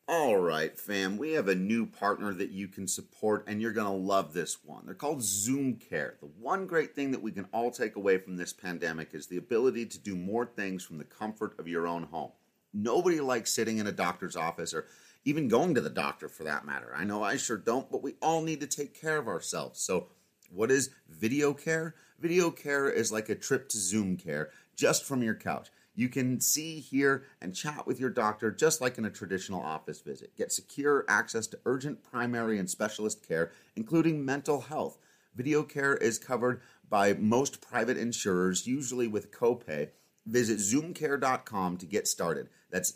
All right, fam, we have a new partner that you can support, and you're going to love this one. They're called Zoom Care. The one great thing that we can all take away from this pandemic is the ability to do more things from the comfort of your own home. Nobody likes sitting in a doctor's office or even going to the doctor for that matter. I know I sure don't, but we all need to take care of ourselves. So what is video care? Video care is like a trip to Zoom Care just from your couch. You can see, hear, and chat with your doctor just like in a traditional office visit. Get secure access to urgent primary and specialist care, including mental health. Video care is covered by most private insurers, usually with copay. Visit zoomcare.com to get started. That's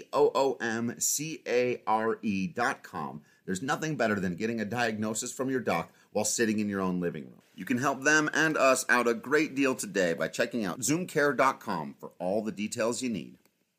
ZOOMCARE.com. There's nothing better than getting a diagnosis from your doc while sitting in your own living room. You can help them and us out a great deal today by checking out zoomcare.com for all the details you need.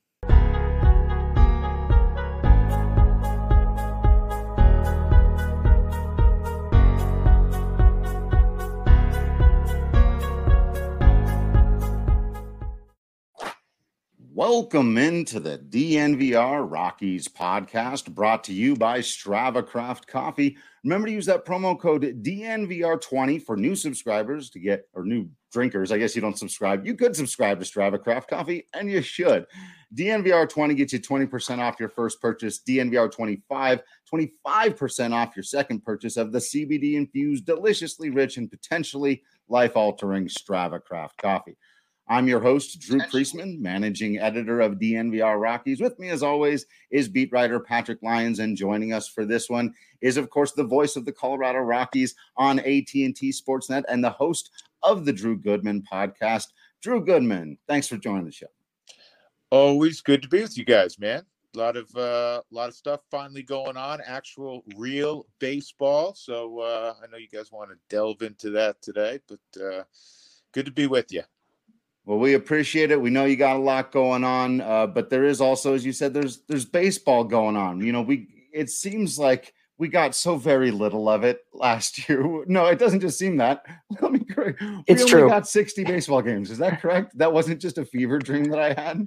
Welcome into the DNVR Rockies podcast, brought to you by Strava Craft Coffee. Remember to use that promo code DNVR20 for new subscribers to get, or new drinkers. I guess you don't subscribe. You could subscribe to Strava Craft Coffee, and you should. DNVR20 gets you 20% off your first purchase. DNVR25, 25% off your second purchase of the CBD-infused, deliciously rich, and potentially life-altering Strava Craft Coffee. I'm your host, Drew Priestman, managing editor of DNVR Rockies. With me, as always, is beat writer Patrick Lyons, and joining us for this one is, of course, the voice of the Colorado Rockies on AT&T Sportsnet and the host of the Drew Goodman podcast, Drew Goodman. Thanks for joining the show. Always good to be with you guys, man. A lot of stuff finally going on, actual real baseball. So I know you guys want to delve into that today, but good to be with you. Well, we appreciate it. We know you got a lot going on, but there is also, as you said, there's baseball going on. You know, it seems like we got so very little of it last year. No, it doesn't just seem that. Let me correct. We only got 60 baseball games. Is that correct? That wasn't just a fever dream that I had.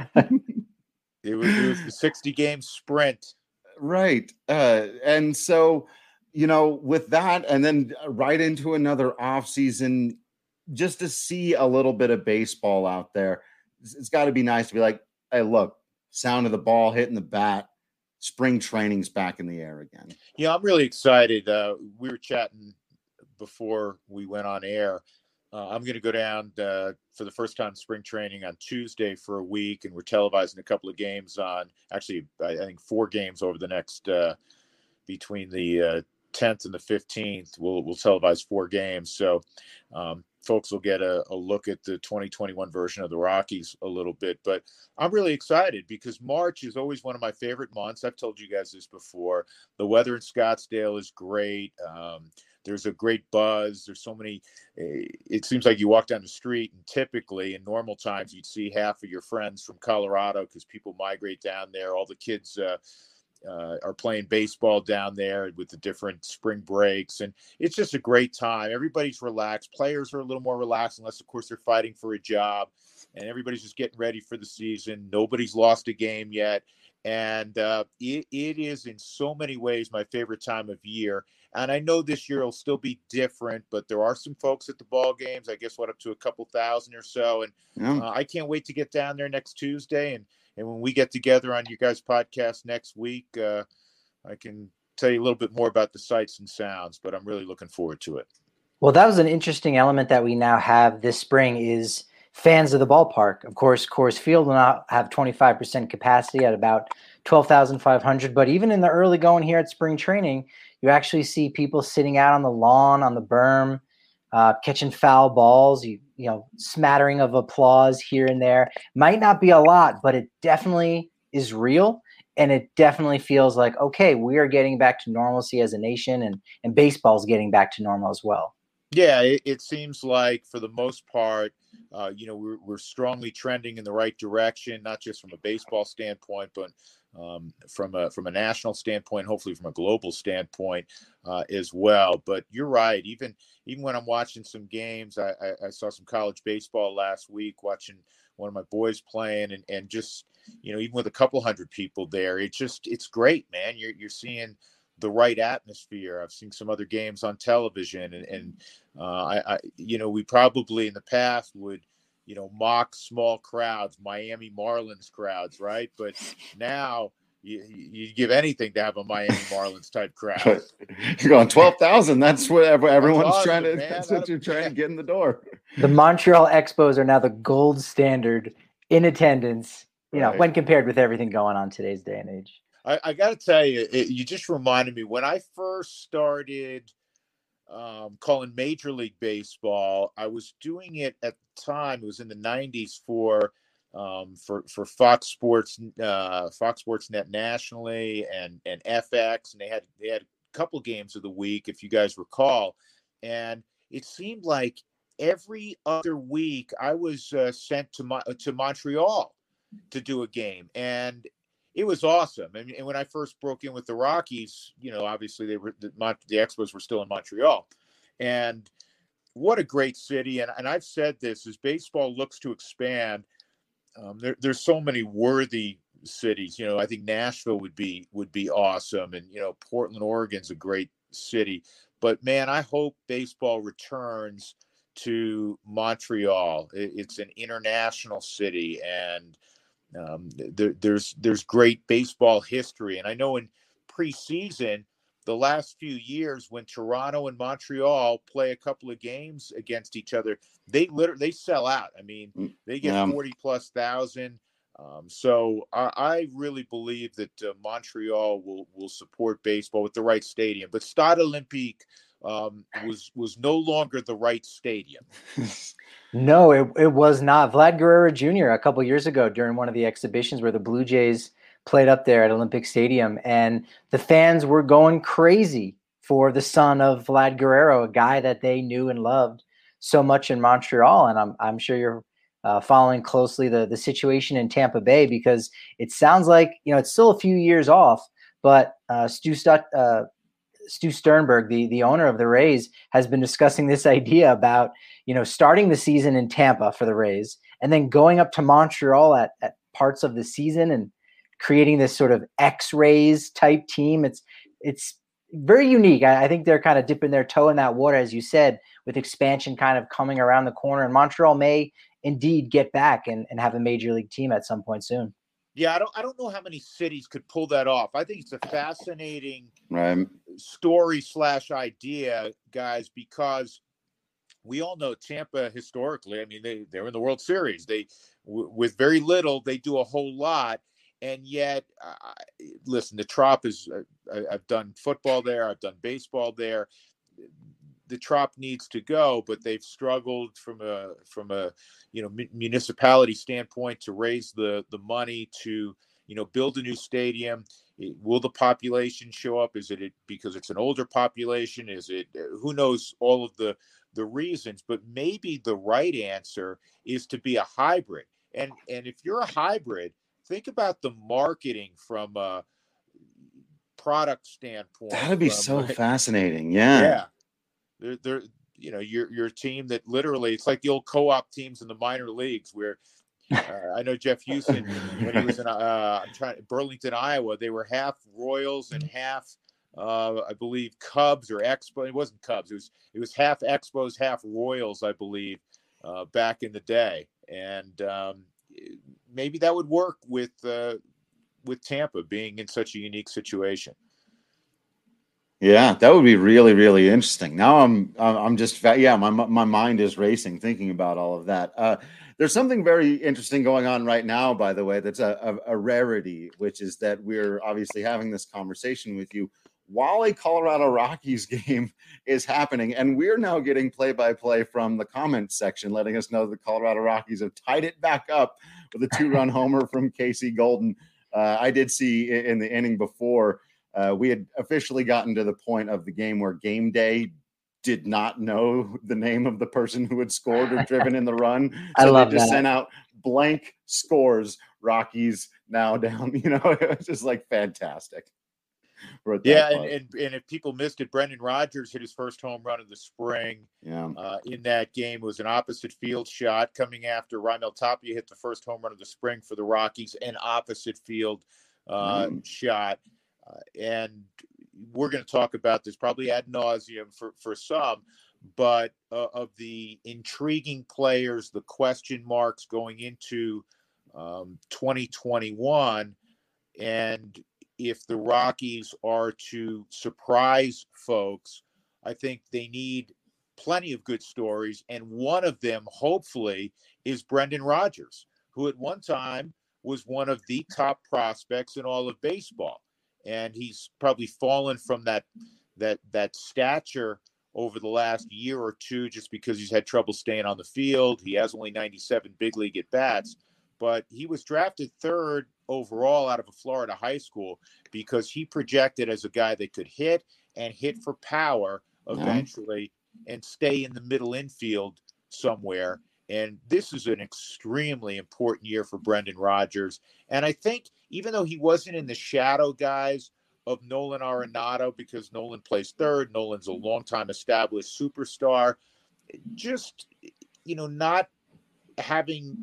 It was the 60-game sprint. Right. And so, you know, with that, and then right into another offseason, just to see a little bit of baseball out there, it's got to be nice to be like, hey, look, sound of the ball hitting the bat, spring training's back in the air again. Yeah, I'm really excited. We were chatting before we went on air. I'm going to go down for the first time spring training on Tuesday for a week, and we're televising a couple of games on, actually, I think 4 games over the next, between the 10th and the 15th. We'll televise 4 games. So, folks will get a look at the 2021 version of the Rockies a little bit, but I'm really excited because March is always one of my favorite months. I've told you guys this before. The weather in Scottsdale is great. There's a great buzz. There's so many, it seems like you walk down the street and typically in normal times, you'd see half of your friends from Colorado because people migrate down there. All the kids, are playing baseball down there with the different spring breaks, and it's just a great time. Everybody's relaxed. Players are a little more relaxed, unless of course they're fighting for a job, and everybody's just getting ready for the season. Nobody's lost a game yet, and it is in so many ways my favorite time of year. And I know this year will still be different, but there are some folks at the ball games. I guess up to a couple thousand or so, and I can't wait to get down there next Tuesday. And when we get together on your guys' podcast next week, I can tell you a little bit more about the sights and sounds, but I'm really looking forward to it. Well, that was an interesting element that we now have this spring is fans of the ballpark. Of course, Coors Field will now have 25% capacity at about 12,500. But even in the early going here at spring training, you actually see people sitting out on the lawn, on the berm, catching foul balls, you know, smattering of applause here and there. Might not be a lot, but it definitely is real. And it definitely feels like, okay, we are getting back to normalcy as a nation, and baseball's getting back to normal as well. Yeah, it seems like for the most part, we're strongly trending in the right direction, not just from a baseball standpoint, but from a national standpoint, hopefully from a global standpoint as well. But you're right. Even when I'm watching some games, I saw some college baseball last week, watching one of my boys playing, and just, even with a couple hundred people there, it's great, man. You're seeing the right atmosphere. I've seen some other games on television, and we probably in the past would, mock small crowds, Miami Marlins crowds, right? But now you give anything to have a Miami Marlins type crowd. You're going 12,000. That's what everyone's awesome, trying to. Man. That's what you're trying to get in the door. The Montreal Expos are now the gold standard in attendance, when compared with everything going on today's day and age. I got to tell you, you just reminded me when I first started calling Major League Baseball. I was doing it at the time. It was in the 90s for Fox Sports Net nationally and FX, and they had a couple games of the week, if you guys recall. And it seemed like every other week I was sent to Montreal to do a game, and it was awesome. And when I first broke in with the Rockies, obviously the Expos were still in Montreal, and what a great city. And I've said this, as baseball looks to expand, there's so many worthy cities. I think Nashville would be awesome, and Portland, Oregon's a great city. But man, I hope baseball returns to Montreal. It's an international city, and there's great baseball history. And I know in preseason, the last few years, when Toronto and Montreal play a couple of games against each other, they sell out. I mean, they get 40,000+. So I really believe that Montreal will support baseball with the right stadium. But Stade Olympique was no longer the right stadium. No, it was not. Vlad Guerrero Jr. a couple years ago during one of the exhibitions where the Blue Jays played up there at Olympic Stadium, and the fans were going crazy for the son of Vlad Guerrero, a guy that they knew and loved so much in Montreal. And I'm sure you're following closely the situation in Tampa Bay, because it sounds like it's still a few years off, but Stu Sternberg, the owner of the Rays, has been discussing this idea about starting the season in Tampa for the Rays and then going up to Montreal at parts of the season and creating this sort of X-Rays type team. It's very unique. I think they're kind of dipping their toe in that water, as you said, with expansion kind of coming around the corner. And Montreal may indeed get back and have a major league team at some point soon. Yeah, I don't know how many cities could pull that off. I think it's a fascinating story / idea, guys, because we all know Tampa historically. I mean, they're in the World Series. With very little, they do a whole lot. And yet, listen, the Trop is, I've done football there. I've done baseball there. The Trop needs to go, but they've struggled from a municipality standpoint to raise the money to, build a new stadium. Will the population show up? Is it because it's an older population? Is it, who knows all of the reasons, but maybe the right answer is to be a hybrid. And if you're a hybrid, think about the marketing from a product standpoint. That'd be so fascinating. Yeah. They're you're a team that literally, it's like the old co-op teams in the minor leagues where I know Jeff Houston, when he was in Burlington, Iowa, they were half Royals and half I believe Cubs or Expos. It wasn't Cubs. It was half Expos, half Royals, I believe, back in the day. And maybe that would work with Tampa being in such a unique situation. Yeah, that would be really, really interesting. Now I'm just my mind is racing thinking about all of that. There's something very interesting going on right now, by the way, that's a rarity, which is that we're obviously having this conversation with you while a Colorado Rockies game is happening, and we're now getting play-by-play from the comments section, letting us know the Colorado Rockies have tied it back up with a 2-run homer from Casey Golden. I did see in the inning before, we had officially gotten to the point of the game where Game Day did not know the name of the person who had scored or driven in the run. So they just sent out blank scores. Rockies now down, it's just like fantastic. Yeah, and if people missed it, Brendan Rodgers hit his first home run of the spring. Yeah. In that game, it was an opposite field shot coming after Raimel Tapia hit the first home run of the spring for the Rockies, an opposite field shot. And we're going to talk about this probably ad nauseum for some, but of the intriguing players, the question marks going into 2021, and if the Rockies are to surprise folks, I think they need plenty of good stories. And one of them, hopefully, is Brendan Rodgers, who at one time was one of the top prospects in all of baseball. And he's probably fallen from that stature over the last year or two just because he's had trouble staying on the field. He has only 97 big league at-bats. But he was drafted third overall out of a Florida high school because he projected as a guy that could hit and hit for power eventually and stay in the middle infield somewhere. And this is an extremely important year for Brendan Rodgers. And I think even though he wasn't in the shadow guys of Nolan Arenado, because Nolan plays third, Nolan's a longtime established superstar, just, not having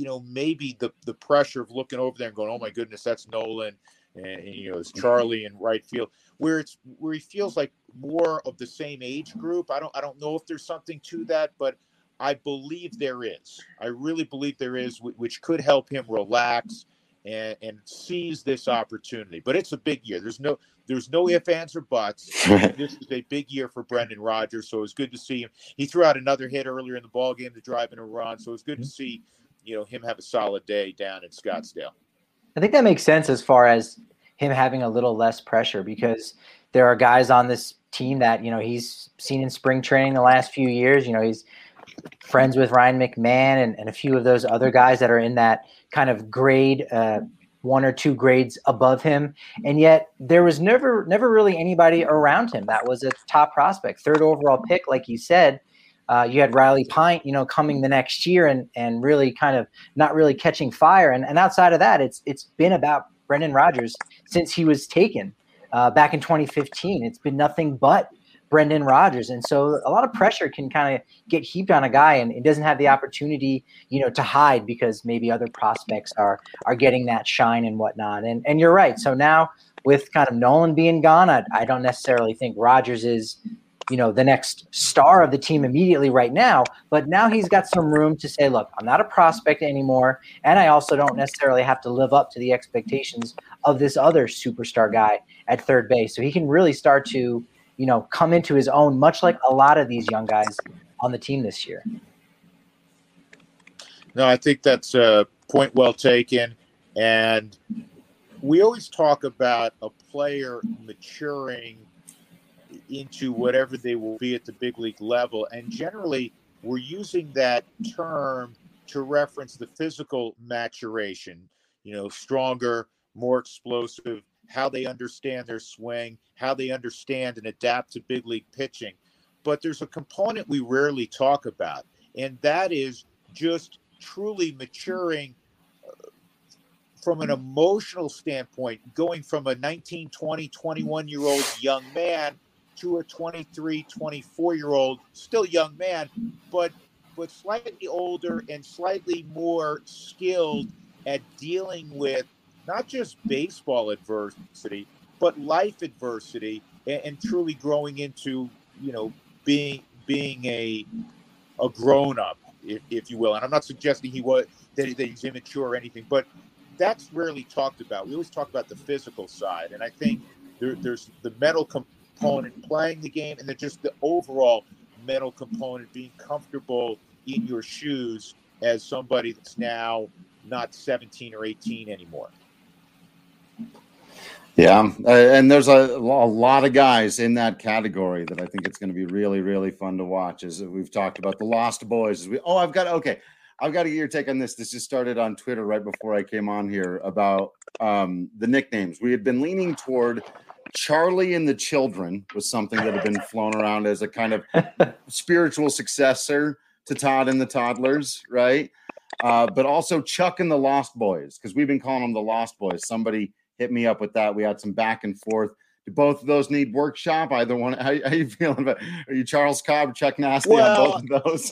maybe the pressure of looking over there and going, oh my goodness, that's Nolan, and it's Charlie in right field, where he feels like more of the same age group. I don't know if there's something to that, but I believe there is. I really believe there is, which could help him relax and seize this opportunity. But it's a big year. There's no ifs, ands, or buts. This is a big year for Brendan Rodgers, so it's good to see him. He threw out another hit earlier in the ball game to drive in a run, so it's good to see him have a solid day down in Scottsdale. I think that makes sense as far as him having a little less pressure, because there are guys on this team that, he's seen in spring training the last few years. He's friends with Ryan McMahon and a few of those other guys that are in that kind of grade, one or two grades above him. And yet there was never really anybody around him that was a top prospect, third overall pick. Like you said, you had Riley Pint, coming the next year and really kind of not really catching fire. And outside of that, it's been about Brendan Rodgers since he was taken back in 2015. It's been nothing but Brendan Rodgers. And so a lot of pressure can kind of get heaped on a guy, and it doesn't have the opportunity, to hide because maybe other prospects are getting that shine and whatnot. And you're right. So now with kind of Nolan being gone, I don't necessarily think Rodgers is, the next star of the team immediately right now, but now he's got some room to say, look, I'm not a prospect anymore. And I also don't necessarily have to live up to the expectations of this other superstar guy at third base. So he can really start to, come into his own, much like a lot of these young guys on the team this year. No, I think that's a point well taken. And we always talk about a player maturing into whatever they will be at the big league level. And generally, we're using that term to reference the physical maturation, stronger, more explosive, how they understand their swing, how they understand and adapt to big league pitching. But there's a component we rarely talk about, and that is just truly maturing from an emotional standpoint, going from a 19, 20, 21-year-old young man to a 23, 24-year-old, still young man, but slightly older and slightly more skilled at dealing with not just baseball adversity, but life adversity, and truly growing into, being a grown-up, if you will. And I'm not suggesting that he's immature or anything, but that's rarely talked about. We always talk about the physical side, and I think there's the mental component playing the game, and then just the overall mental component, being comfortable in your shoes as somebody that's now not 17 or 18 anymore. Yeah, and there's a lot of guys in that category that I think it's going to be really, really fun to watch. As we've talked about the Lost Boys. I've got to get your take on this. This just started on Twitter right before I came on here about the nicknames. We had been leaning toward Charlie and the Children was something that had been flown around as a kind of spiritual successor to Todd and the Toddlers, right? But also Chuck and the Lost Boys, because we've been calling them the Lost Boys. Somebody hit me up with that. We had some back and forth both of those need workshop? Either one? How you feeling about? Are you Charles Cobb, Chuck Nasty Well, on both of those?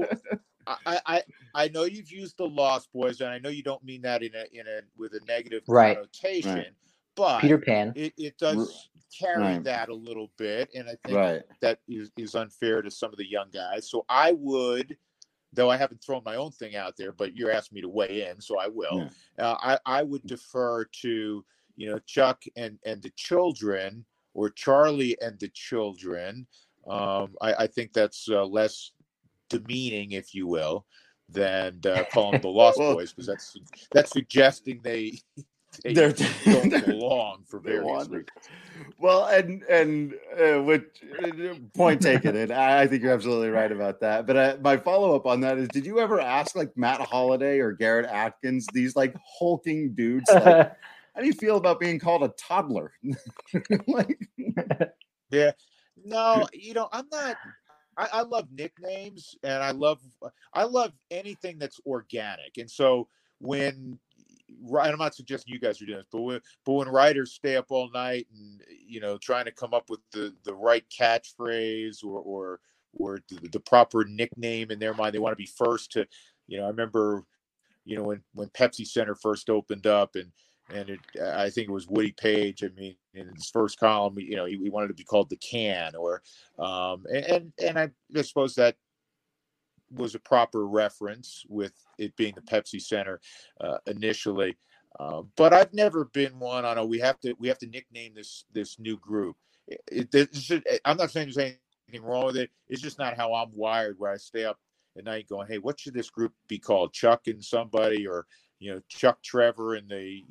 I know you've used the Lost Boys, and I know you don't mean that in a with a negative Right. connotation, Right. but Peter Pan. it does carry Right. that a little bit, and I think Right. that is unfair to some of the young guys. So I would, though I haven't thrown my own thing out there, but you're asking me to weigh in, so I will. Yeah. I would defer to Chuck and the children, or Charlie and the children. I think that's less demeaning, if you will, than calling them the Lost Boys, because that's suggesting they don't belong for various reasons. Well, and which point taken, and I think you're absolutely right about that. But my follow up on that is, did you ever ask like Matt Holliday or Garrett Atkins, these like hulking dudes, like, how do you feel about being called a toddler? Like, yeah, no, I'm not. I love nicknames, and I love anything that's organic. And so when, I'm not suggesting you guys are doing this, but when writers stay up all night and trying to come up with the right catchphrase or the proper nickname in their mind, they want to be first to. I remember when Pepsi Center first opened up, and I think it was Woody Page. I mean, in his first column, he wanted to be called the Can, or and I suppose that was a proper reference with it being the Pepsi Center initially. But I've never been one on we have to nickname this new group. I'm not saying there's anything wrong with it. It's just not how I'm wired, where I stay up at night going, hey, what should this group be called? Chuck and somebody, or Chuck Trevor and the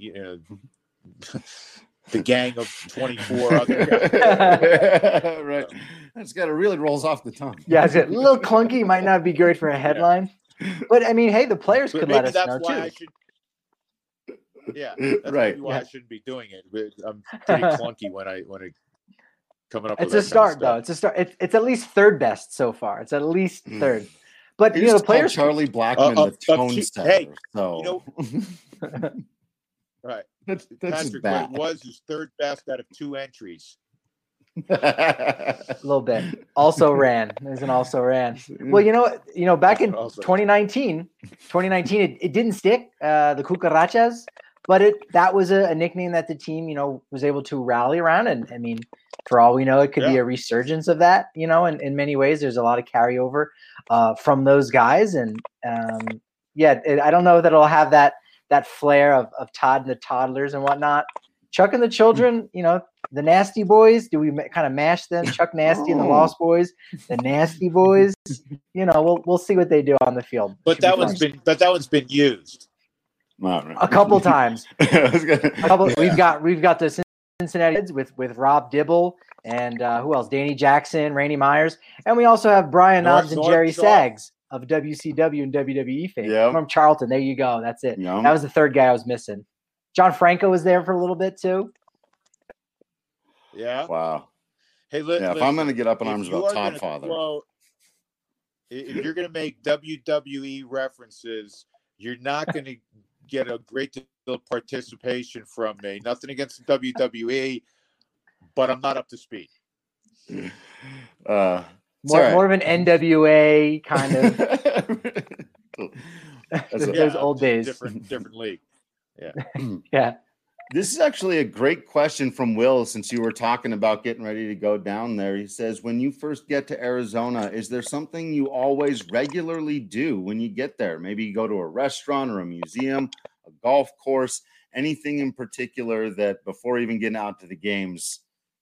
the gang of 24 other guys. Right. That's got really rolls off the tongue. Yeah, it's a little clunky. Might not be great for a headline. Yeah. But I mean, hey, the players could let us know too. That's right. Maybe why I shouldn't be doing it. I'm pretty clunky when I coming up. It's a start, though. It's a start. It's at least third best so far. It's at least third. But the players, Charlie Blackman, the tone setter. Hey, so right. That's Patrick, bad. what it was his third best out of 2 entries. A little bit. Also ran. There's an also ran. Well, back in 2019, it didn't stick. The Cucarachas, but that was a nickname that the team, was able to rally around. And I mean, for all we know, it could be a resurgence of that. In many ways, there's a lot of carryover from those guys. And I don't know that it'll have that flair of Todd and the Toddlers and whatnot. Chuck and the children, the Nasty Boys. Do we kind of mash them? Chuck Nasty and the Lost Boys, the Nasty Boys. We'll see what they do on the field. But that one's been used a couple times. We've got the Cincinnati Reds with Rob Dibble and who else? Danny Jackson, Randy Myers, and we also have Brian Knobs and Jerry Sags of WCW and WWE fame. From Charlton. There you go. That's it. Yep. That was the third guy I was missing. John Franco was there for a little bit too. Yeah. Wow. Hey, listen, if I'm going to get up in arms about Todd Father, if you're going to make WWE references, you're not going to get a great deal of participation from me. Nothing against the WWE, but I'm not up to speed. More of an NWA kind of. Those old days. Different league. Yeah. Yeah. This is actually a great question from Will, since you were talking about getting ready to go down there. He says, when you first get to Arizona, is there something you always regularly do when you get there? Maybe you go to a restaurant or a museum, a golf course, anything in particular that before even getting out to the games,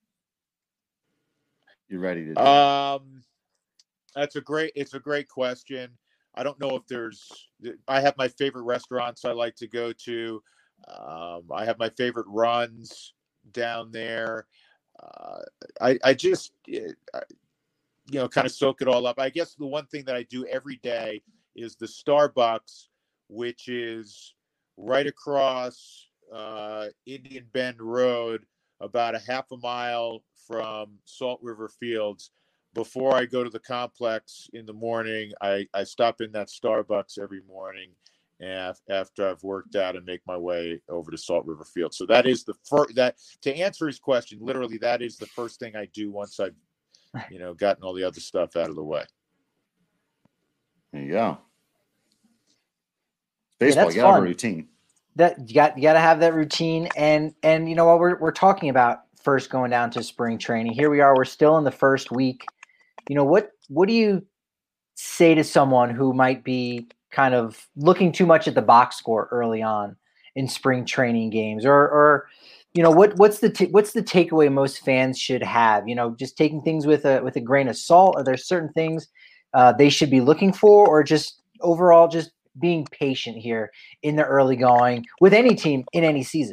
you're ready to do? It's a great question. I don't know if I have my favorite restaurants I like to go to. I have my favorite runs down there. I just, kind of soak it all up. I guess the one thing that I do every day is the Starbucks, which is right across Indian Bend Road, about a half a mile from Salt River Fields. Before I go to the complex in the morning, I stop in that Starbucks every morning, after I've worked out and make my way over to Salt River Field. So that is the first, that to answer his question, literally that is the first thing I do once I've, gotten all the other stuff out of the way. There you go. Baseball, you gotta have a routine. That you got to have that routine, and while we're talking about first going down to spring training, here we are. We're still in the first week. What do you say to someone who might be kind of looking too much at the box score early on in spring training games, or what's the takeaway most fans should have? Just taking things with a grain of salt. Are there certain things they should be looking for, or just overall just being patient here in the early going with any team in any season?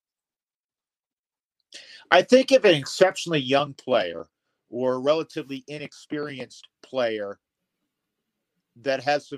I think if an exceptionally young player or a relatively inexperienced player that has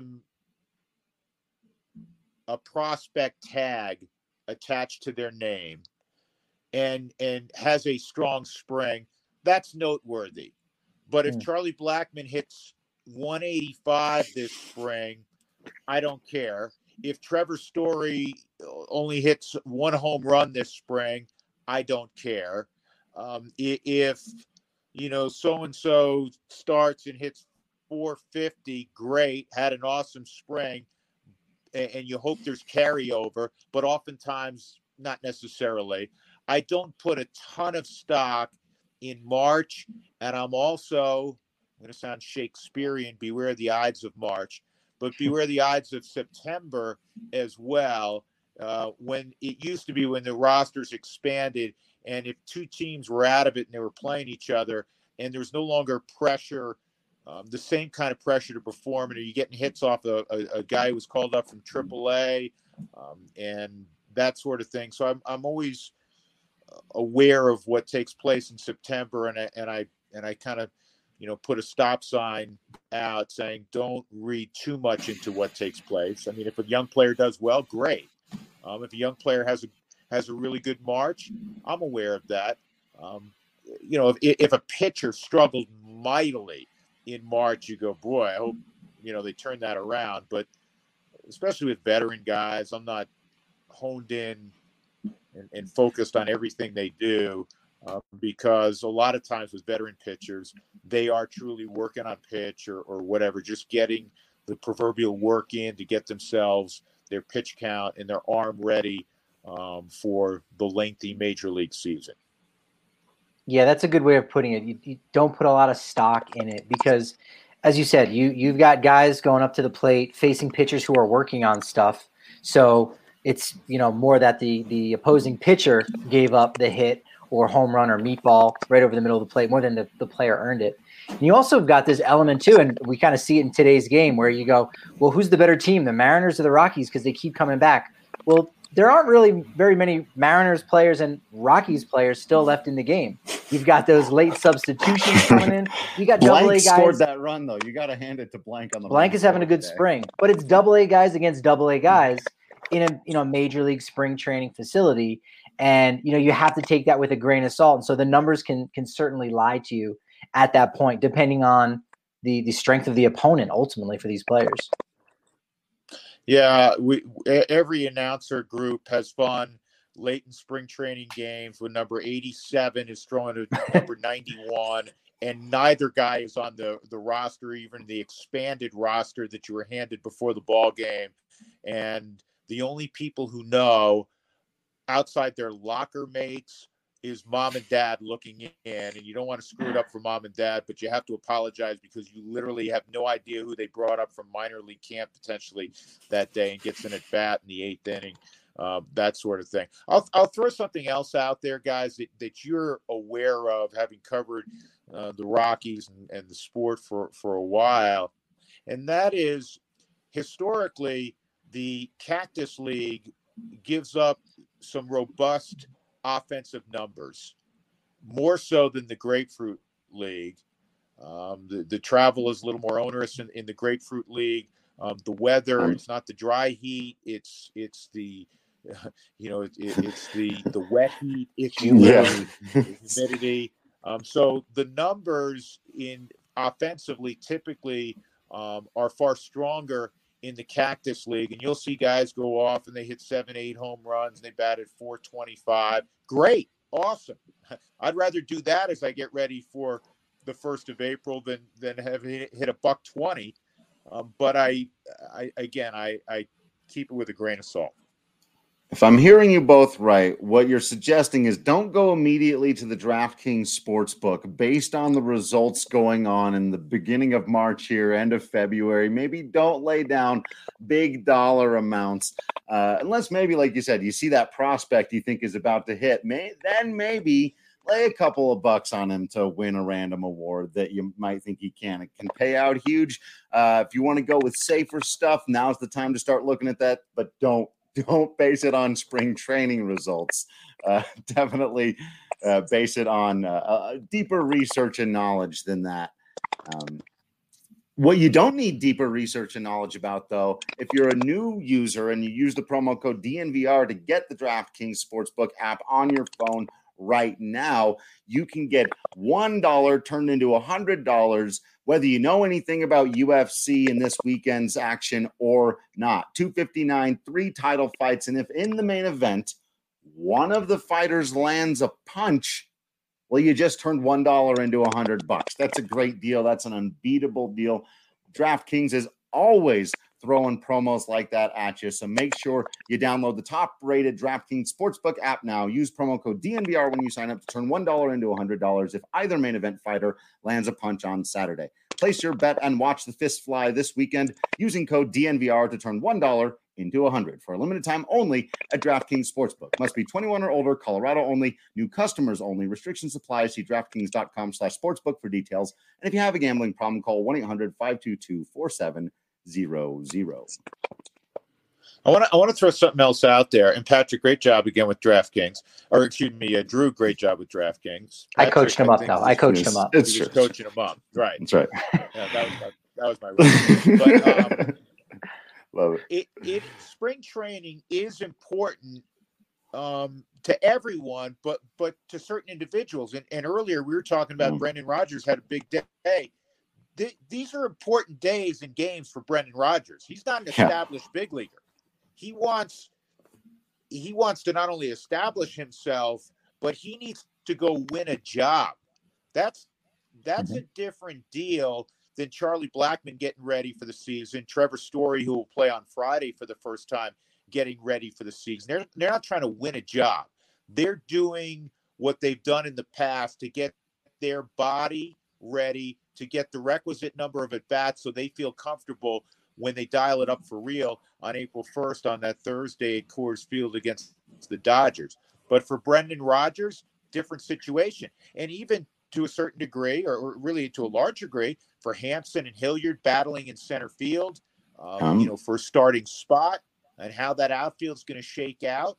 a prospect tag attached to their name and has a strong spring, that's noteworthy. But if Charlie Blackmon hits 185 this spring, I don't care. If Trevor Story only hits one home run this spring, I don't care. If so-and-so starts and hits 450, great, had an awesome spring, and you hope there's carryover, but oftentimes not necessarily. I don't put a ton of stock in March, and I'm going to sound Shakespearean, beware the Ides of March, but beware the Ides of September as well. When it used to be when the rosters expanded, and if two teams were out of it and they were playing each other, and there was no longer pressure, the same kind of pressure to perform, and are you getting hits off a guy who was called up from AAA, and that sort of thing. So I'm always aware of what takes place in September, and I kind of put a stop sign out saying don't read too much into what takes place. I mean, if a young player does well, great. If a young player has a really good March, I'm aware of that. If a pitcher struggled mightily in March, you go, boy, I hope they turn that around. But especially with veteran guys, I'm not honed in and focused on everything they do, because a lot of times with veteran pitchers, they are truly working on pitch or whatever, just getting the proverbial work in to get themselves their pitch count and their arm ready for the lengthy major league season. Yeah, that's a good way of putting it. You don't put a lot of stock in it because, as you said, you've got guys going up to the plate facing pitchers who are working on stuff. So it's more that the opposing pitcher gave up the hit or home run or meatball right over the middle of the plate more than the player earned it. And you also got this element too, and we kind of see it in today's game where you go, well, who's the better team, the Mariners or the Rockies? Because they keep coming back. Well, there aren't really very many Mariners players and Rockies players still left in the game. You've got those late substitutions coming in. You got Blank AA guys. Scored that run though. You got to hand it to Blank on the. Blank is having a good spring, but it's AA guys against AA guys in a major league spring training facility, and you have to take that with a grain of salt. And so the numbers can certainly lie to you at that point, depending on the strength of the opponent ultimately for these players. Yeah, every announcer group has fun late in spring training games when number 87 is throwing to number 91, and neither guy is on the roster, even the expanded roster that you were handed before the ball game. And the only people who know outside their locker mates is mom and dad looking in, and you don't want to screw it up for mom and dad, but you have to apologize because you literally have no idea who they brought up from minor league camp potentially that day and gets in at bat in the 8th inning, that sort of thing. I'll throw something else out there, guys, that you're aware of, having covered the Rockies and the sport for a while, and that is historically the Cactus League gives up some robust offensive numbers, more so than the Grapefruit League. The travel is a little more onerous in the Grapefruit League. The weather, it's not the dry heat, it's the it's the wet heat, it's humidity. Humidity. So the numbers in offensively typically are far stronger in the Cactus League, and you'll see guys go off and they hit 7-8 home runs and they batted .425. Great, awesome. I'd rather do that as I get ready for the 1st of April than have hit a $120. But I keep it with a grain of salt. If I'm hearing you both right, what you're suggesting is don't go immediately to the DraftKings Sportsbook based on the results going on in the beginning of March here, end of February. Maybe don't lay down big dollar amounts unless maybe, like you said, you see that prospect you think is about to hit. Then maybe lay a couple of bucks on him to win a random award that you might think he can. It can pay out huge. If you want to go with safer stuff, now's the time to start looking at that, but don't base it on spring training results. Definitely base it on deeper research and knowledge than that. What you don't need deeper research and knowledge about, though, if you're a new user and you use the promo code DNVR to get the DraftKings Sportsbook app on your phone right now, you can get $1 turned into $100, whether you know anything about UFC and this weekend's action or not. 259, 3 title fights, and if in the main event one of the fighters lands a punch, well, you just turned $1 into $100. That's a great deal. That's an unbeatable deal. DraftKings is always throwing promos like that at you. So make sure you download the top-rated DraftKings Sportsbook app now. Use promo code DNVR when you sign up to turn $1 into $100 if either main event fighter lands a punch on Saturday. Place your bet and watch the fist fly this weekend using code DNVR to turn $1 into $100 for a limited time only at DraftKings Sportsbook. Must be 21 or older, Colorado only, new customers only. Restrictions apply. See DraftKings.com/sportsbook for details. And if you have a gambling problem, call 1-800-522-4700. I want to throw something else out there. And Patrick, great job again with DraftKings. Or excuse me, Drew, great job with DraftKings. Patrick, I coached him up, though. I coached him up. He was coaching him up. Right. That's right. Yeah, that was my but love it. Spring training is important to everyone, but to certain individuals. And earlier we were talking about Brendan Rodgers had a big day. These are important days and games for Brendan Rodgers. He's not an established big leaguer. He wants to not only establish himself, but he needs to go win a job. That's a different deal than Charlie Blackmon getting ready for the season, Trevor Story, who will play on Friday for the first time, getting ready for the season. They're not trying to win a job. They're doing what they've done in the past to get their body ready, to get the requisite number of at-bats so they feel comfortable when they dial it up for real on April 1st on that Thursday at Coors Field against the Dodgers. But for Brendan Rodgers, different situation. And even to a certain degree, or really to a large degree, for Hampson and Hilliard battling in center field, for a starting spot and how that outfield is going to shake out.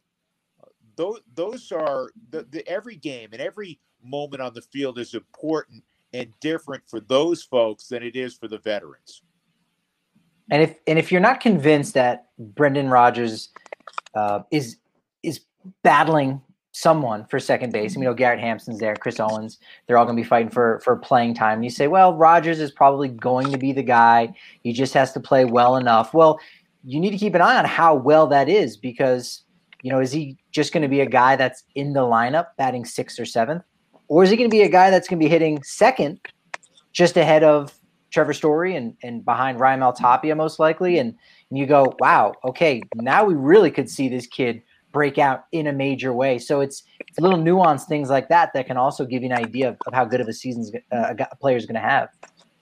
Those are the every game and every moment on the field is important and different for those folks than it is for the veterans. And if you're not convinced that Brendan Rodgers is battling someone for second base, Garrett Hampson's there, Chris Owens, they're all going to be fighting for playing time. And you say, well, Rodgers is probably going to be the guy. He just has to play well enough. Well, you need to keep an eye on how well that is because, is he just going to be a guy that's in the lineup batting 6th or 7th? Or is he going to be a guy that's going to be hitting second just ahead of Trevor Story and behind Raimel Tapia most likely? And you go, wow, okay, now we really could see this kid break out in a major way. So it's little nuanced things like that can also give you an idea of how good of a season a player is going to have.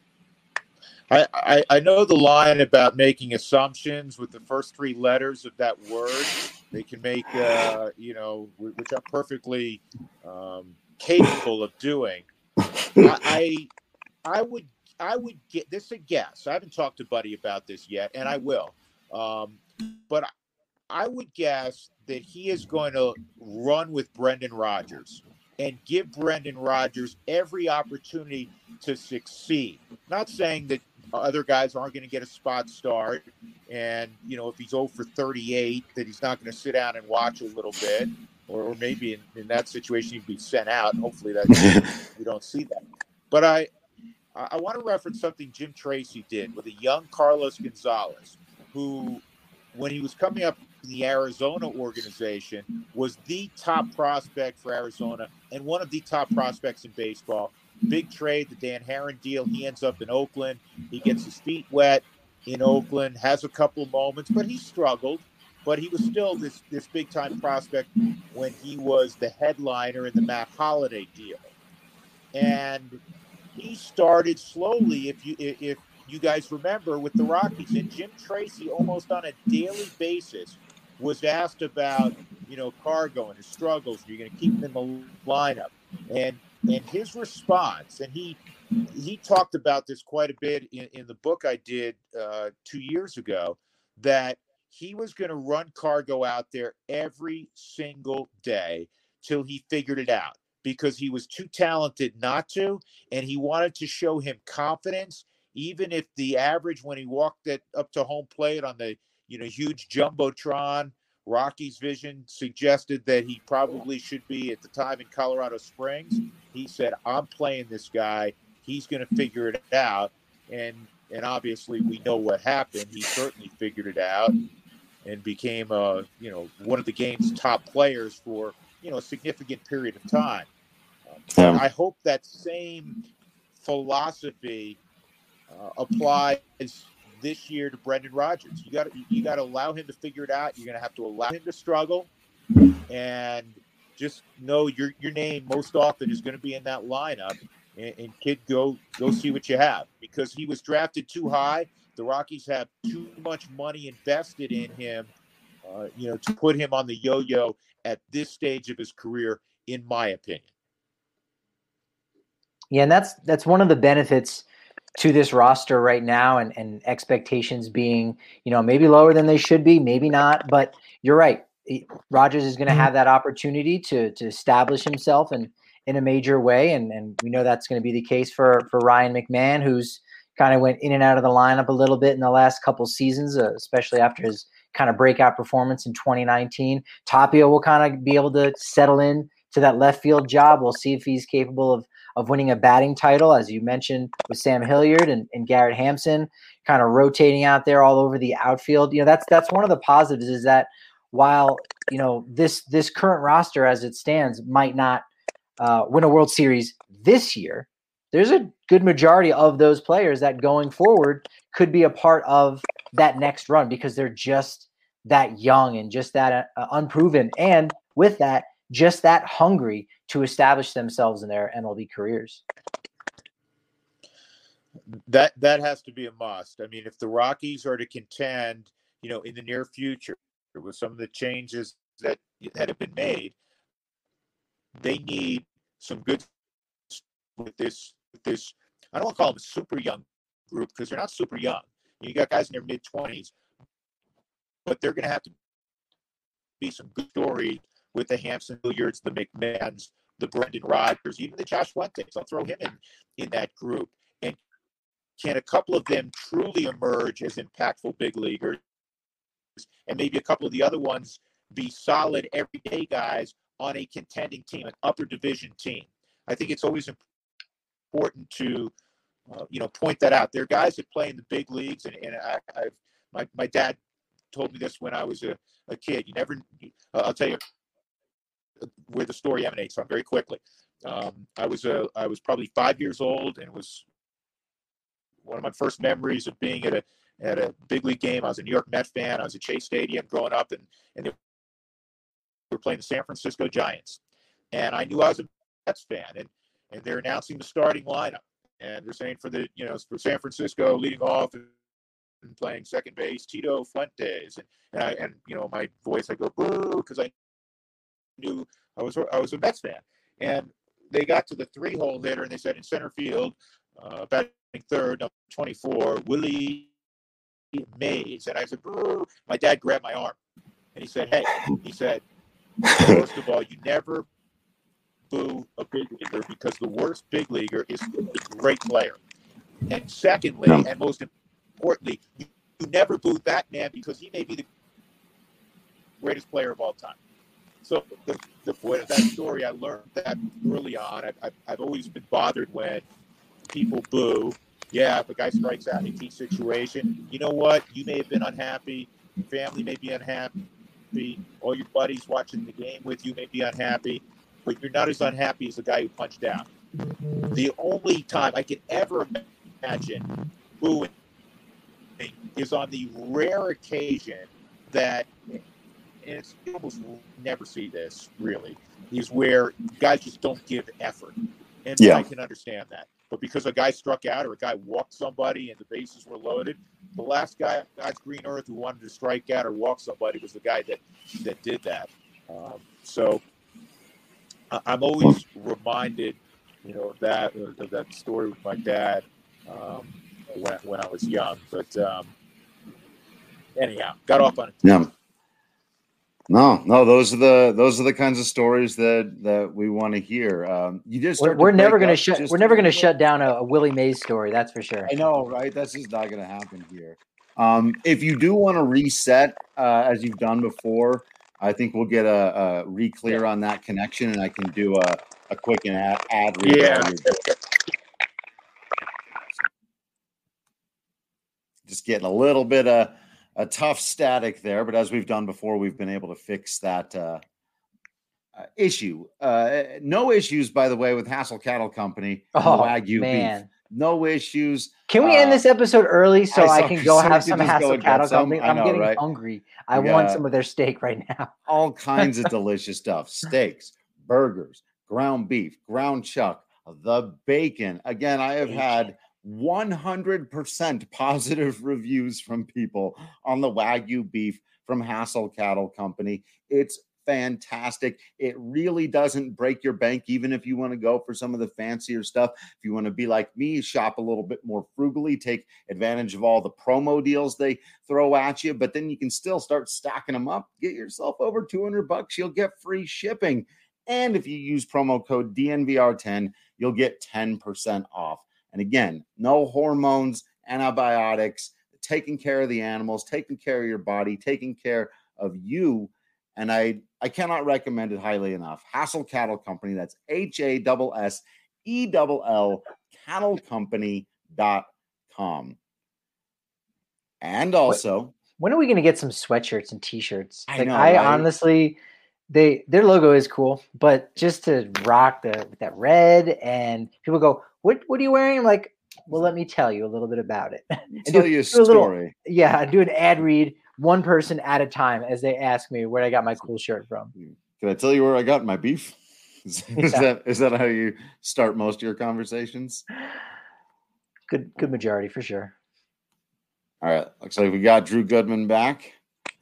I know the line about making assumptions with the first 3 letters of that word. They can make, which I'm perfectly capable of doing. I would get this a guess. I haven't talked to Buddy about this yet, and I will. But I would guess that he is going to run with Brendan Rodgers and give Brendan Rodgers every opportunity to succeed. Not saying that other guys aren't going to get a spot start, and if he's 0 for 38, that he's not going to sit down and watch a little bit, or maybe in that situation he'd be sent out. And hopefully that we don't see that. But I want to reference something Jim Tracy did with a young Carlos Gonzalez, who, when he was coming up in the Arizona organization, was the top prospect for Arizona and one of the top prospects in baseball. Big trade, the Dan Herron deal. He ends up in Oakland. He gets his feet wet in Oakland, has a couple of moments, but he struggled. But he was still this big-time prospect when he was the headliner in the Matt Holliday deal. And he started slowly, if you guys remember, with the Rockies. And Jim Tracy, almost on a daily basis, was asked about, Cargo and his struggles. You're going to keep him in the lineup. And his response, and he talked about this quite a bit in the book I did 2 years ago, that he was going to run Cargo out there every single day till he figured it out, because he was too talented not to, and he wanted to show him confidence, even if the average when he walked up to home plate on the huge jumbotron, Rocky's vision suggested that he probably should be at the time in Colorado Springs. He said, "I'm playing this guy. He's going to figure it out." And obviously we know what happened. He certainly figured it out and became one of the game's top players for a significant period of time. But I hope that same philosophy applies this year to Brendan Rodgers. You got to allow him to figure it out. You're going to have to allow him to struggle, and just know your name most often is going to be in that lineup. And kid, go see what you have, because he was drafted too high. The Rockies have too much money invested in him, to put him on the yo-yo at this stage of his career, in my opinion. Yeah, and that's one of the benefits to this roster right now, and expectations being, maybe lower than they should be, maybe not. But you're right. Rodgers is going to have that opportunity to establish himself in a major way, and we know that's going to be the case for Ryan McMahon, who's kind of went in and out of the lineup a little bit in the last couple seasons, especially after his kind of breakout performance in 2019. Tapia will kind of be able to settle in to that left field job. We'll see if he's capable of winning a batting title, as you mentioned, with Sam Hilliard and Garrett Hampson kind of rotating out there all over the outfield. That's one of the positives, is that while, this current roster as it stands might not win a World Series this year, there's a good majority of those players that going forward could be a part of that next run, because they're just that young and just that unproven. And with that, just that hungry to establish themselves in their MLB careers. That has to be a must. I mean, if the Rockies are to contend, in the near future with some of the changes that have been made, they need some good with this. I don't want to call them a super young group, because they're not super young. You got guys in their mid-20s, but they're going to have to be some good story with the Hampson Hilliards, the McMahons, the Brendan Rodgers, even the Josh Fuentes. I'll throw him in that group. And can a couple of them truly emerge as impactful big leaguers, and maybe a couple of the other ones be solid everyday guys on a contending team, an upper division team? I think it's always important to point that out. There are guys that play in the big leagues, and my dad told me this when I was a kid. I'll tell you where the story emanates from very quickly. I was probably 5 years old, and it was one of my first memories of being at a big league game. I was a New York Met fan. I was at Chase Stadium growing up, and they were playing the San Francisco Giants, and I knew I was a Mets fan, and they're announcing the starting lineup, and they're saying for for San Francisco, leading off and playing second base, Tito Fuentes, and my voice, I go boo, because I knew I was a Mets fan. And they got to the 3-hole hitter, and they said in center field, batting third, number 24, Willie Mays. And I said, boo. My dad grabbed my arm, and he said, first of all, you never boo a big leaguer, because the worst big leaguer is a great player. And secondly, and most importantly, you never boo that man, because he may be the greatest player of all time. So the point of that story, I learned that early on. I've always been bothered when people boo, Yeah, if a guy strikes out in a key situation, you know what? You may have been unhappy. Your family may be unhappy. All your buddies watching the game with you may be unhappy, but you're not as unhappy as the guy who punched out. The only time I could ever imagine booing is on the rare occasion that, and it's, you almost never see this really, is where guys just don't give effort. And I can understand that. But because a guy struck out or a guy walked somebody and the bases were loaded, the last guy on God's green earth who wanted to strike out or walk somebody was the guy that did that. So I'm always reminded, of that story with my dad when I was young. But anyhow, got off on it. Yeah. No, those are the kinds of stories that we want to hear. You just we're never going to shut down a Willie Mays story. That's for sure. I know, right? That's just not going to happen here. If you do want to reset, as you've done before, I think we'll get a re-clear on that connection, and I can do a quick ad read. Yeah. Just getting a little bit of a tough static there, but as we've done before, we've been able to fix that issue. No issues, by the way, with Hassel Cattle Company. Wagyu beef. No issues. Can we end this episode early so I can go have some Hassel Cattle Company? I'm getting hungry. I want some of their steak right now. All kinds of delicious stuff. Steaks, burgers, ground beef, ground chuck, the bacon. Again, I have had 100% positive reviews from people on the Wagyu beef from Hassel Cattle Company. It's fantastic. It really doesn't break your bank, even if you want to go for some of the fancier stuff. If you want to be like me, shop a little bit more frugally, take advantage of all the promo deals they throw at you, but then you can still start stocking them up. Get yourself over $200. You'll get free shipping. And if you use promo code DNVR10, you'll get 10% off. And again, no hormones, antibiotics, taking care of the animals, taking care of your body, taking care of you. And I cannot recommend it highly enough. Hassel Cattle Company, that's HASSELL cattlecompany.com. And also, when are we going to get some sweatshirts and t-shirts? I honestly, their logo is cool, but just to rock that red, and people go, what are you wearing? I'm like, well, let me tell you a little bit about it. Tell you a story. Do an ad read, one person at a time, as they ask me where I got my cool shirt from. Can I tell you where I got my beef? Is that how you start most of your conversations? Good majority for sure. All right. Looks like we got Drew Goodman back.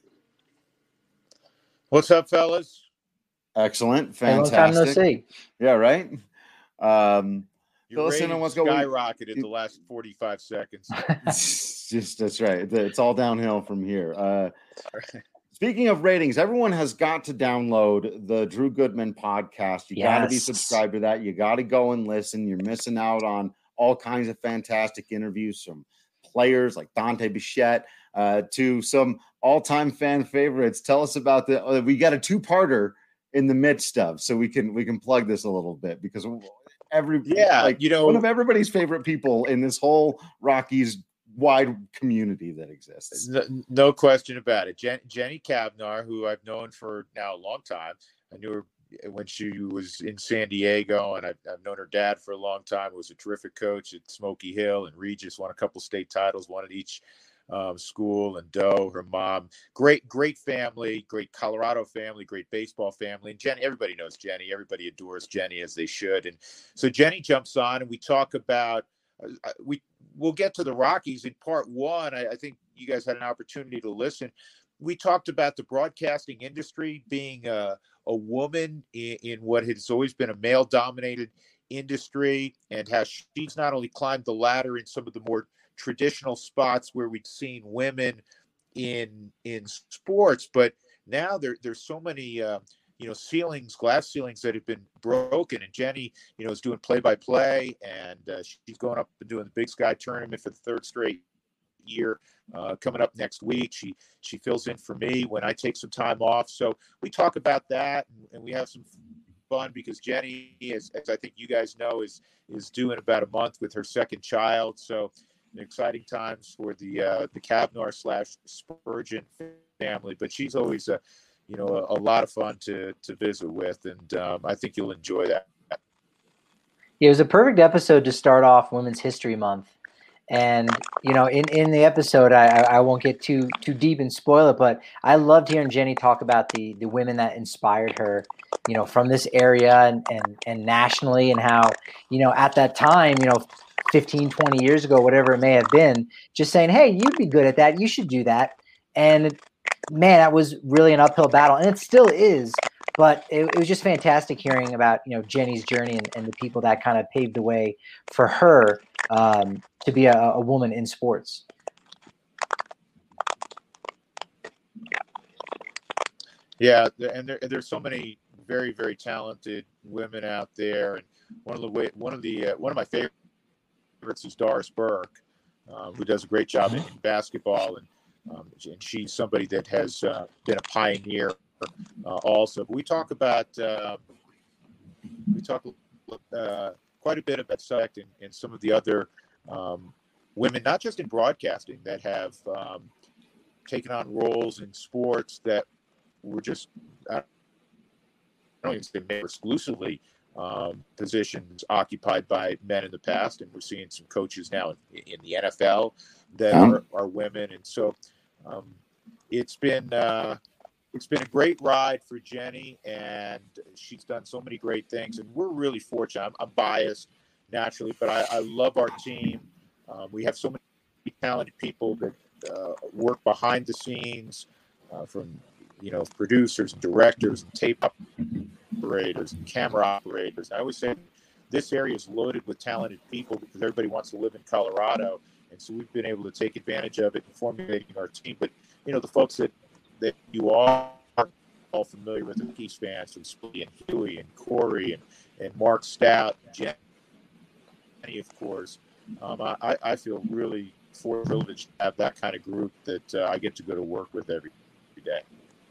What's up, fellas? Excellent. Fantastic. Long time no see. Yeah, right? Your rating skyrocketed the last 45 seconds. That's right. It's all downhill from here. Speaking of ratings, everyone has got to download the Drew Goodman podcast. You got to be subscribed to that. You got to go and listen. You're missing out on all kinds of fantastic interviews from players like Dante Bichette to some all-time fan favorites. Tell us about we got a two-parter in the midst of, so we can plug this a little bit, because one of everybody's favorite people in this whole Rockies wide community that exists. No question about it. Jenny Cavnar, who I've known for now a long time. I knew her when she was in San Diego, and I've known her dad for a long time. He was a terrific coach at Smoky Hill and Regis, won a couple state titles, one at each school, and Doe, her mom, great family, great Colorado family, great baseball family. And Jenny, everybody knows Jenny. Everybody adores Jenny, as they should. And so Jenny jumps on, and we talk about, we'll get to the Rockies in part one. I think you guys had an opportunity to listen. We talked about the broadcasting industry being a woman in what has always been a male-dominated industry, and how she's not only climbed the ladder in some of the more traditional spots where we've seen women in sports, but now there's so many glass ceilings that have been broken. And Jenny, is doing play-by-play, and she's going up and doing the Big Sky tournament for the third straight year coming up next week. She fills in for me when I take some time off. So we talk about that, and we have some fun because Jenny, as I think you guys know, is due in about a month with her second child. So exciting times for the Kavnar / Spurgeon family. But she's always a lot of fun to visit with, and I think you'll enjoy that. It was a perfect episode to start off Women's History Month. And, in the episode, I won't get too deep and spoil it, but I loved hearing Jenny talk about the women that inspired her, from this area and nationally, and how, at that time, 15, 20 years ago, whatever it may have been, just saying, hey, you'd be good at that. You should do that. And man, that was really an uphill battle. And it still is. But it was just fantastic hearing about, Jenny's journey and the people that kind of paved the way for her to be a woman in sports. Yeah, and there's so many very, very talented women out there, and one of my favorites is Doris Burke, who does a great job in basketball, and she's somebody that has been a pioneer also. But we talk quite a bit about subject and some of the other women, not just in broadcasting, that have taken on roles in sports that were just, I don't even say exclusively positions occupied by men in the past, and we're seeing some coaches now in the NFL that are women, and so it's been a great ride for Jenny, and she's done so many great things, and we're really fortunate. I'm biased naturally, but I love our team. We have so many talented people that work behind the scenes, from producers and directors and tape operators and camera operators. I always say this area is loaded with talented people because everybody wants to live in Colorado, and so we've been able to take advantage of it in formulating our team. But the folks that you are all familiar with, the Keys fans, from Splitty and Huey and Corey and Mark Stout, Jenny, of course. I feel really privileged to have that kind of group that I get to go to work with every day.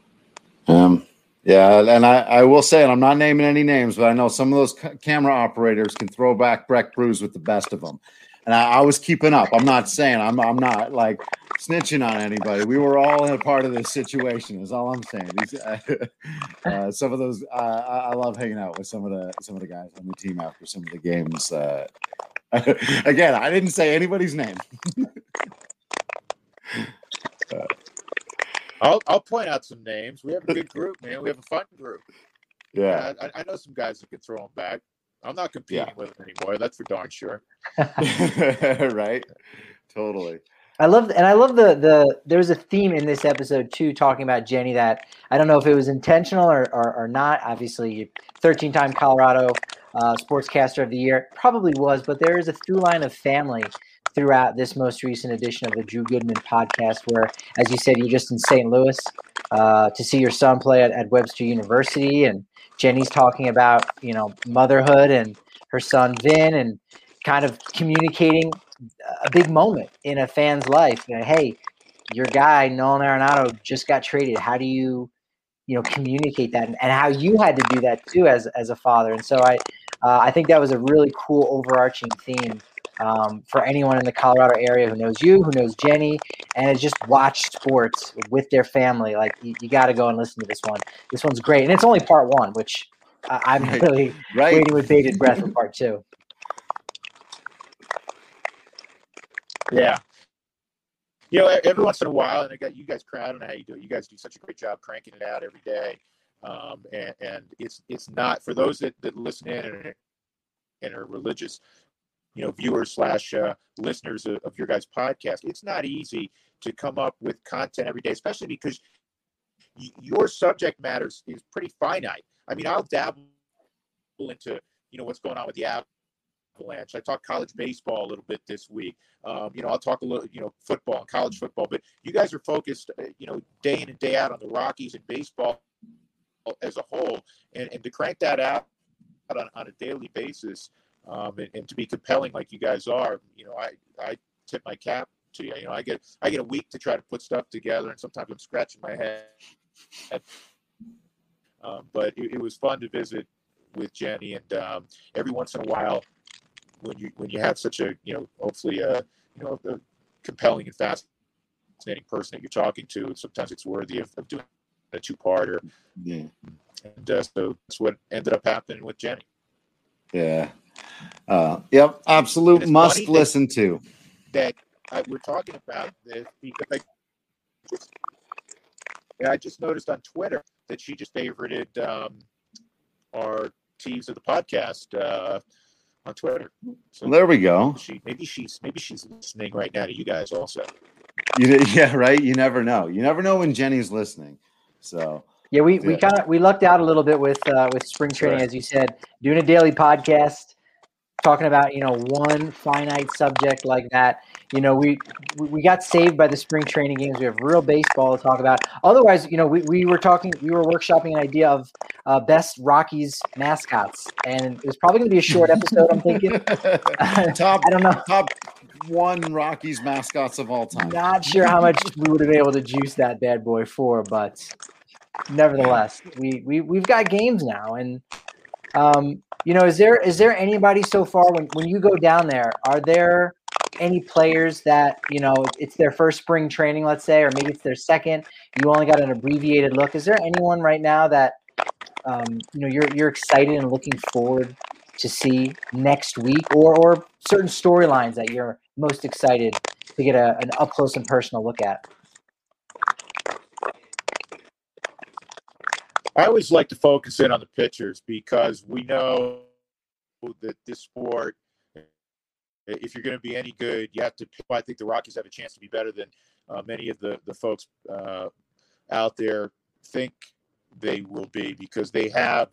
Yeah, and I will say, and I'm not naming any names, but I know some of those camera operators can throw back Breck Brews with the best of them. And I was keeping up. I'm not saying I'm not like snitching on anybody. We were all in a part of this situation. Is all I'm saying. Some of those, I love hanging out with some of the guys on the team after some of the games. Again, I didn't say anybody's name. I'll point out some names. We have a good group, man. We have a fun group. Yeah, I know some guys that can throw them back. I'm not competing with them anymore. That's for darn sure. Right. Totally. I love the there's a theme in this episode too, talking about Jenny that I don't know if it was intentional or not. Obviously, 13-time Colorado Sportscaster of the Year, probably was, but there is a through line of family throughout this most recent edition of the Drew Goodman podcast, where, as you said, you're just in St. Louis to see your son play at Webster University, and Jenny's talking about motherhood and her son Vin, and kind of communicating a big moment in a fan's life. Hey, your guy Nolan Arenado just got traded. How do you communicate that, and how you had to do that too as a father? And so I think that was a really cool overarching theme for anyone in the Colorado area who knows you, who knows Jenny, and has just watched sports with their family. Like you got to go and listen to this one. This one's great, and it's only part one, which I'm really waiting with bated breath for part two. Yeah. Every once in a while, and I got you guys, I don't know how you do it. You guys do such a great job cranking it out every day. And it's not, for those that listen in and are religious, viewers / listeners of your guys' podcast, it's not easy to come up with content every day, especially because your subject matter is pretty finite. I mean, I'll dabble into, what's going on with the Avalanche. I talk college baseball a little bit this week. I'll talk a little, football and college football, but you guys are focused, day in and day out on the Rockies and baseball as a whole, and to crank that out on a daily basis, and to be compelling like you guys are, I tip my cap to you. I get a week to try to put stuff together, and sometimes I'm scratching my head. But it was fun to visit with Jenny, and every once in a while, when you have such a hopefully a compelling and fascinating person that you're talking to, sometimes it's worthy of doing a two-parter. Yeah. And so that's what ended up happening with Jenny. Yeah. Yep. Absolute must listen to. That we're talking about this because I just noticed on Twitter that she just favorited our Teves of the podcast on Twitter. So well, there we go. Maybe she's listening right now to you guys also. Yeah, right. You never know. You never know when Jenny's listening. So yeah, we lucked out a little bit with spring training, as you said, doing a daily podcast, talking about one finite subject like that. We got saved by the spring training games. We have real baseball to talk about. Otherwise, we were workshopping an idea of best Rockies mascots, and it was probably going to be a short episode. I'm thinking I don't know, top 1 Rockies mascots of all time. Not sure how much we would have been able to juice that bad boy for, but nevertheless, we've got games now, and is there anybody so far when you go down there? Are there any players that it's their first spring training, let's say, or maybe it's their second? You only got an abbreviated look. Is there anyone right now that you're excited and looking forward to see next week, or certain storylines that you're most excited to get an up close and personal look at? I always like to focus in on the pitchers because we know that this sport, if you're going to be any good, you have to. I think the Rockies have a chance to be better than many of the folks out there think they will be, because they have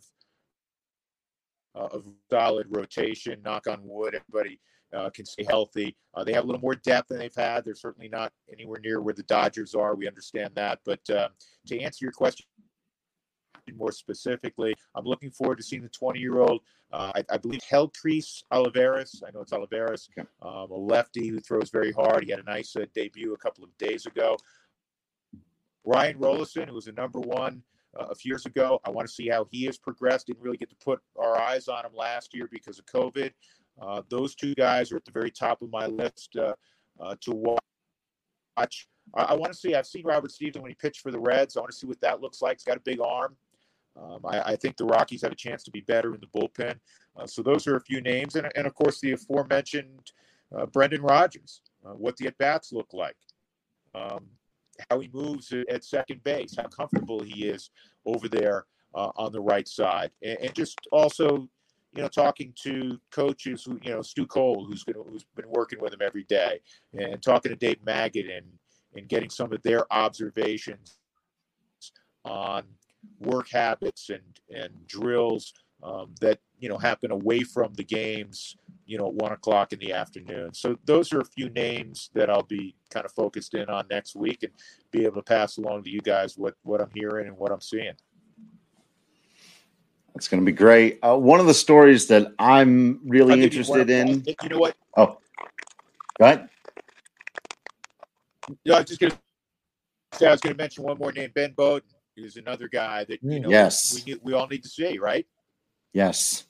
a solid rotation. Knock on wood, everybody can stay healthy. They have a little more depth than they've had. They're certainly not anywhere near where the Dodgers are. We understand that. But to answer your question more specifically, I'm looking forward to seeing the 20-year-old. I believe Helcris Olivares. I know it's Olivares, a lefty who throws very hard. He had a nice debut a couple of days ago. Ryan Rollison, who was a number 1 a few years ago. I want to see how he has progressed. Didn't really get to put our eyes on him last year because of COVID. Those 2 guys are at the very top of my list to watch. I want to see. I've seen Robert Stevenson when he pitched for the Reds. I want to see what that looks like. He's got a big arm. I think the Rockies have a chance to be better in the bullpen. So those are a few names. And of course, the aforementioned Brendan Rodgers, what the at-bats look like, how he moves at second base, how comfortable he is over there on the right side. And just also, talking to coaches who, Stu Cole, who's been working with him every day, and talking to Dave Maggott and getting some of their observations on work habits and drills that happen away from the games at 1 o'clock in the afternoon. So those are a few names that I'll be kind of focused in on next week and be able to pass along to you guys what I'm hearing and what I'm seeing. That's going to be great. One of the stories that I'm really interested in. You know what? Oh, go ahead. I was going to mention one more name, Ben Bowden. Is another guy that yes, we all need to see, right? Yes.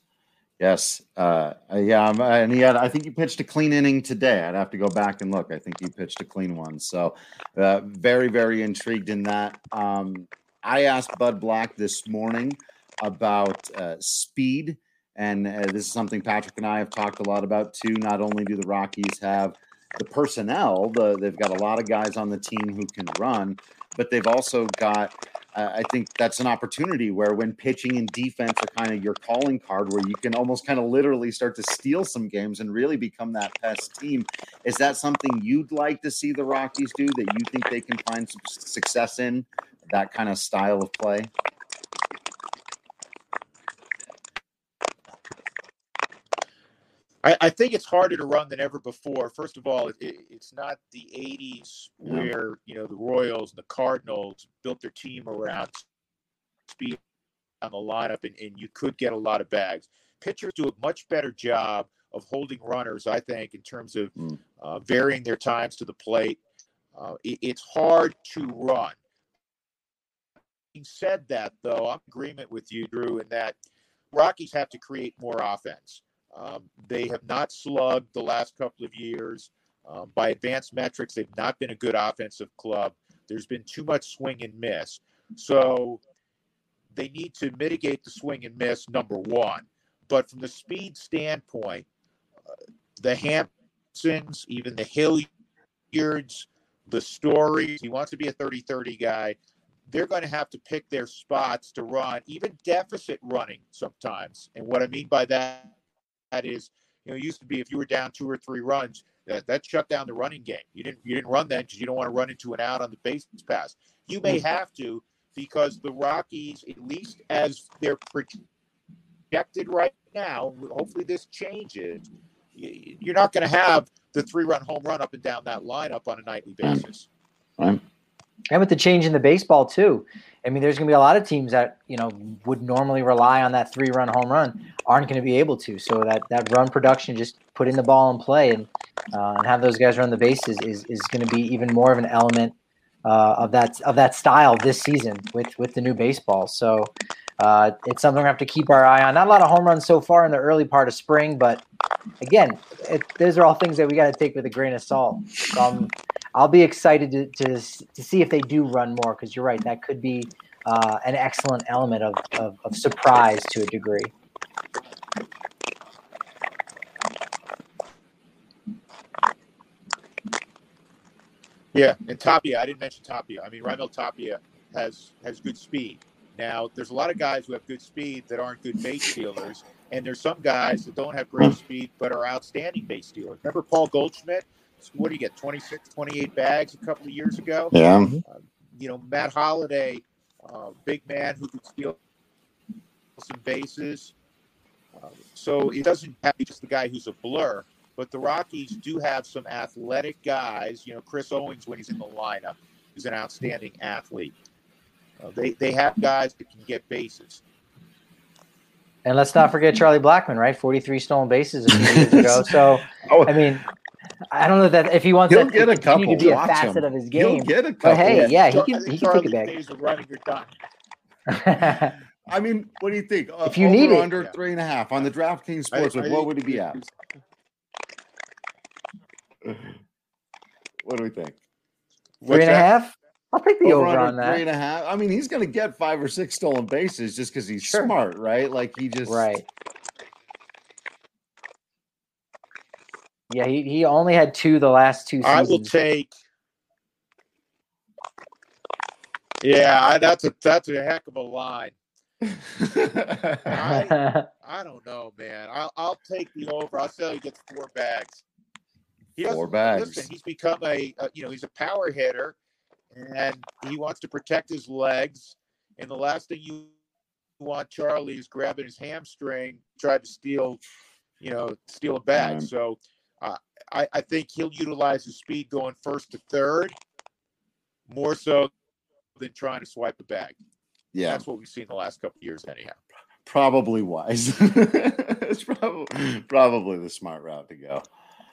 And I think you pitched a clean inning today. I'd have to go back and look. I think you pitched a clean one. So very, very intrigued in that. I asked Bud Black this morning about speed, and this is something Patrick and I have talked a lot about too. Not only do the Rockies have the personnel, they've got a lot of guys on the team who can run, but they've also got I think that's an opportunity where when pitching and defense are kind of your calling card, where you can almost kind of literally start to steal some games and really become that pest team. Is that something you'd like to see the Rockies do, that you think they can find some success in, that kind of style of play? I think it's harder to run than ever before. First of all, it's not the 80s where, the Royals and the Cardinals built their team around speed on the lineup, and you could get a lot of bags. Pitchers do a much better job of holding runners, I think, in terms of varying their times to the plate. It's hard to run. Having said that, though, I'm in agreement with you, Drew, in that Rockies have to create more offense. They have not slugged the last couple of years. By advanced metrics, they've not been a good offensive club. There's been too much swing and miss. So they need to mitigate the swing and miss, number one. But from the speed standpoint, the Hampsons, even the Hilliards, the Stories, he wants to be a 30-30 guy. They're going to have to pick their spots to run, even deficit running sometimes. And what I mean by that is, it used to be if you were down 2 or 3 runs, that shut down the running game. You didn't run that because you don't want to run into an out on the base pass. You may have to, because the Rockies, at least as they're projected right now, hopefully this changes, you're not going to have the 3-run home run up and down that lineup on a nightly basis. Right. And with the change in the baseball too, I mean, there's going to be a lot of teams that, would normally rely on that 3-run home run aren't going to be able to. So that run production, just putting the ball in play and have those guys run the bases is going to be even more of an element of that style this season with the new baseball. So it's something we have to keep our eye on. Not a lot of home runs so far in the early part of spring, but again, those are all things that we got to take with a grain of salt. So I'll be excited to see if they do run more, because you're right, that could be an excellent element of surprise to a degree. Yeah, and Tapia, I didn't mention Tapia. I mean, Raimel Tapia has good speed. Now, there's a lot of guys who have good speed that aren't good base stealers, and there's some guys that don't have great speed but are outstanding base stealers. Remember Paul Goldschmidt? What do you get, 26, 28 bags a couple of years ago? Yeah. Matt Holliday, big man who could steal some bases. So it doesn't have to be just the guy who's a blur, but the Rockies do have some athletic guys. Chris Owings, when he's in the lineup, is an outstanding athlete. They have guys that can get bases. And let's not forget Charlie Blackmon, right? 43 stolen bases a few years ago. So, I mean, I don't know that if he wants to continue to be a facet of his game. He'll get a couple. But hey, yeah, he can take a bag. Days of running are done. I mean, what do you think? If you need it, under 3.5 on the DraftKings Sportsbook, what would he be at? What do we think? 3.5? I'll take the over on that. 3.5. I mean, he's going to get 5 or 6 stolen bases just because he's smart, right? Like he just right. Yeah, he only had 2 the last 2 seasons. I will take. Yeah, that's a heck of a line. I don't know, man. I'll take the over. I'll say he gets 4 bags. 4 bags. Listen, he's become he's a power hitter, and he wants to protect his legs. And the last thing you want Charlie is grabbing his hamstring, try to steal a bag. So I think he'll utilize his speed going first to third more so than trying to swipe a bag. Yeah, that's what we've seen the last couple of years, anyhow. Probably wise. It's probably the smart route to go.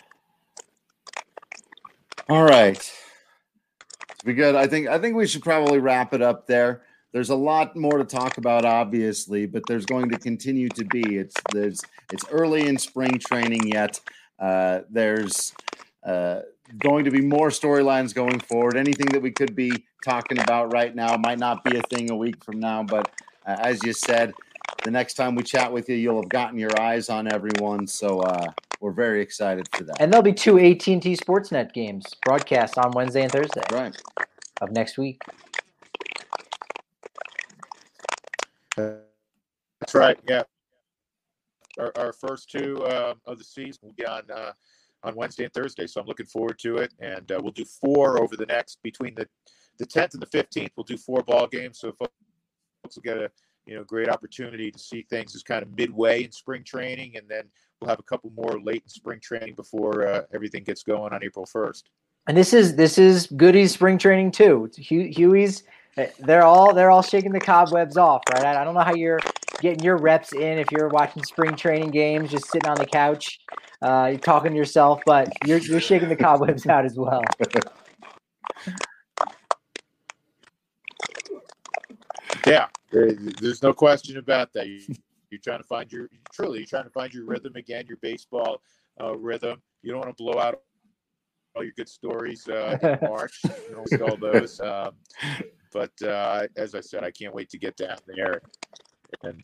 All right, to be good. I think we should probably wrap it up there. There's a lot more to talk about, obviously, but there's going to continue to be. It's early in spring training yet. There's going to be more storylines going forward. Anything that we could be talking about right now might not be a thing a week from now, but as you said, the next time we chat with you, you'll have gotten your eyes on everyone. So we're very excited for that. And there'll be 2 AT&T Sportsnet games broadcast on Wednesday and Thursday of next week. That's right. Yeah. Our first 2 of the season will be on Wednesday and Thursday. So I'm looking forward to it. And we'll do 4 over the next, between the 10th and the 15th, we'll do 4 ball games. So folks will get a great opportunity to see things as kind of midway in spring training. And then we'll have a couple more late in spring training before everything gets going on April 1st. And this is Goody's spring training too. Huey's, they're all shaking the cobwebs off, right? I don't know how you're getting your reps in if you're watching spring training games, just sitting on the couch, you're talking to yourself, but you're shaking the cobwebs out as well. Yeah, there's no question about that. You You're trying to find your rhythm again, your baseball rhythm. You don't want to blow out all your good stories in March. You don't see all those. But as I said, I can't wait to get down there and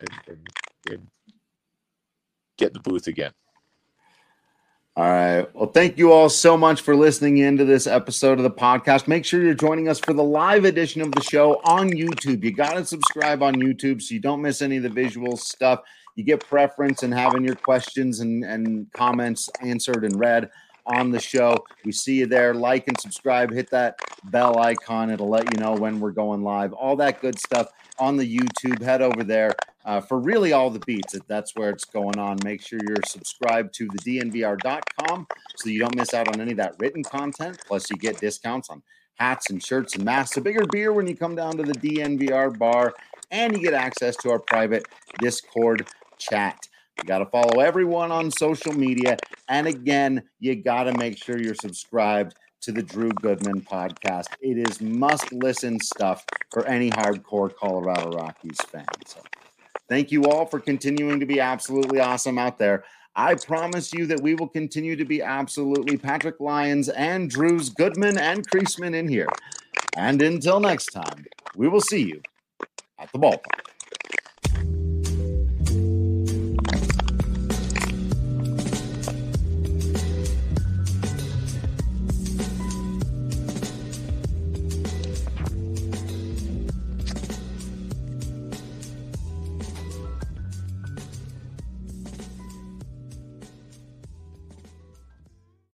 get in the booth again. All right. Well, thank you all so much for listening into this episode of the podcast. Make sure you're joining us for the live edition of the show on YouTube. You got to subscribe on YouTube so you don't miss any of the visual stuff. You get preference in having your questions and comments answered and read on the show. We see you there. Like and subscribe. Hit that bell icon. It'll let you know when we're going live. All that good stuff on the YouTube. Head over there for really all the beats. That's where it's going on. Make sure you're subscribed to the DNVR.com so you don't miss out on any of that written content. Plus, you get discounts on hats and shirts and masks, a bigger beer when you come down to the DNVR bar, and you get access to our private Discord chat. You got to follow everyone on social media. And again, you got to make sure you're subscribed to the Drew Goodman podcast. It is must-listen stuff for any hardcore Colorado Rockies fan. So thank you all for continuing to be absolutely awesome out there. I promise you that we will continue to be absolutely Patrick Lyons and Drews Goodman and Creasman in here. And until next time, we will see you at the ballpark.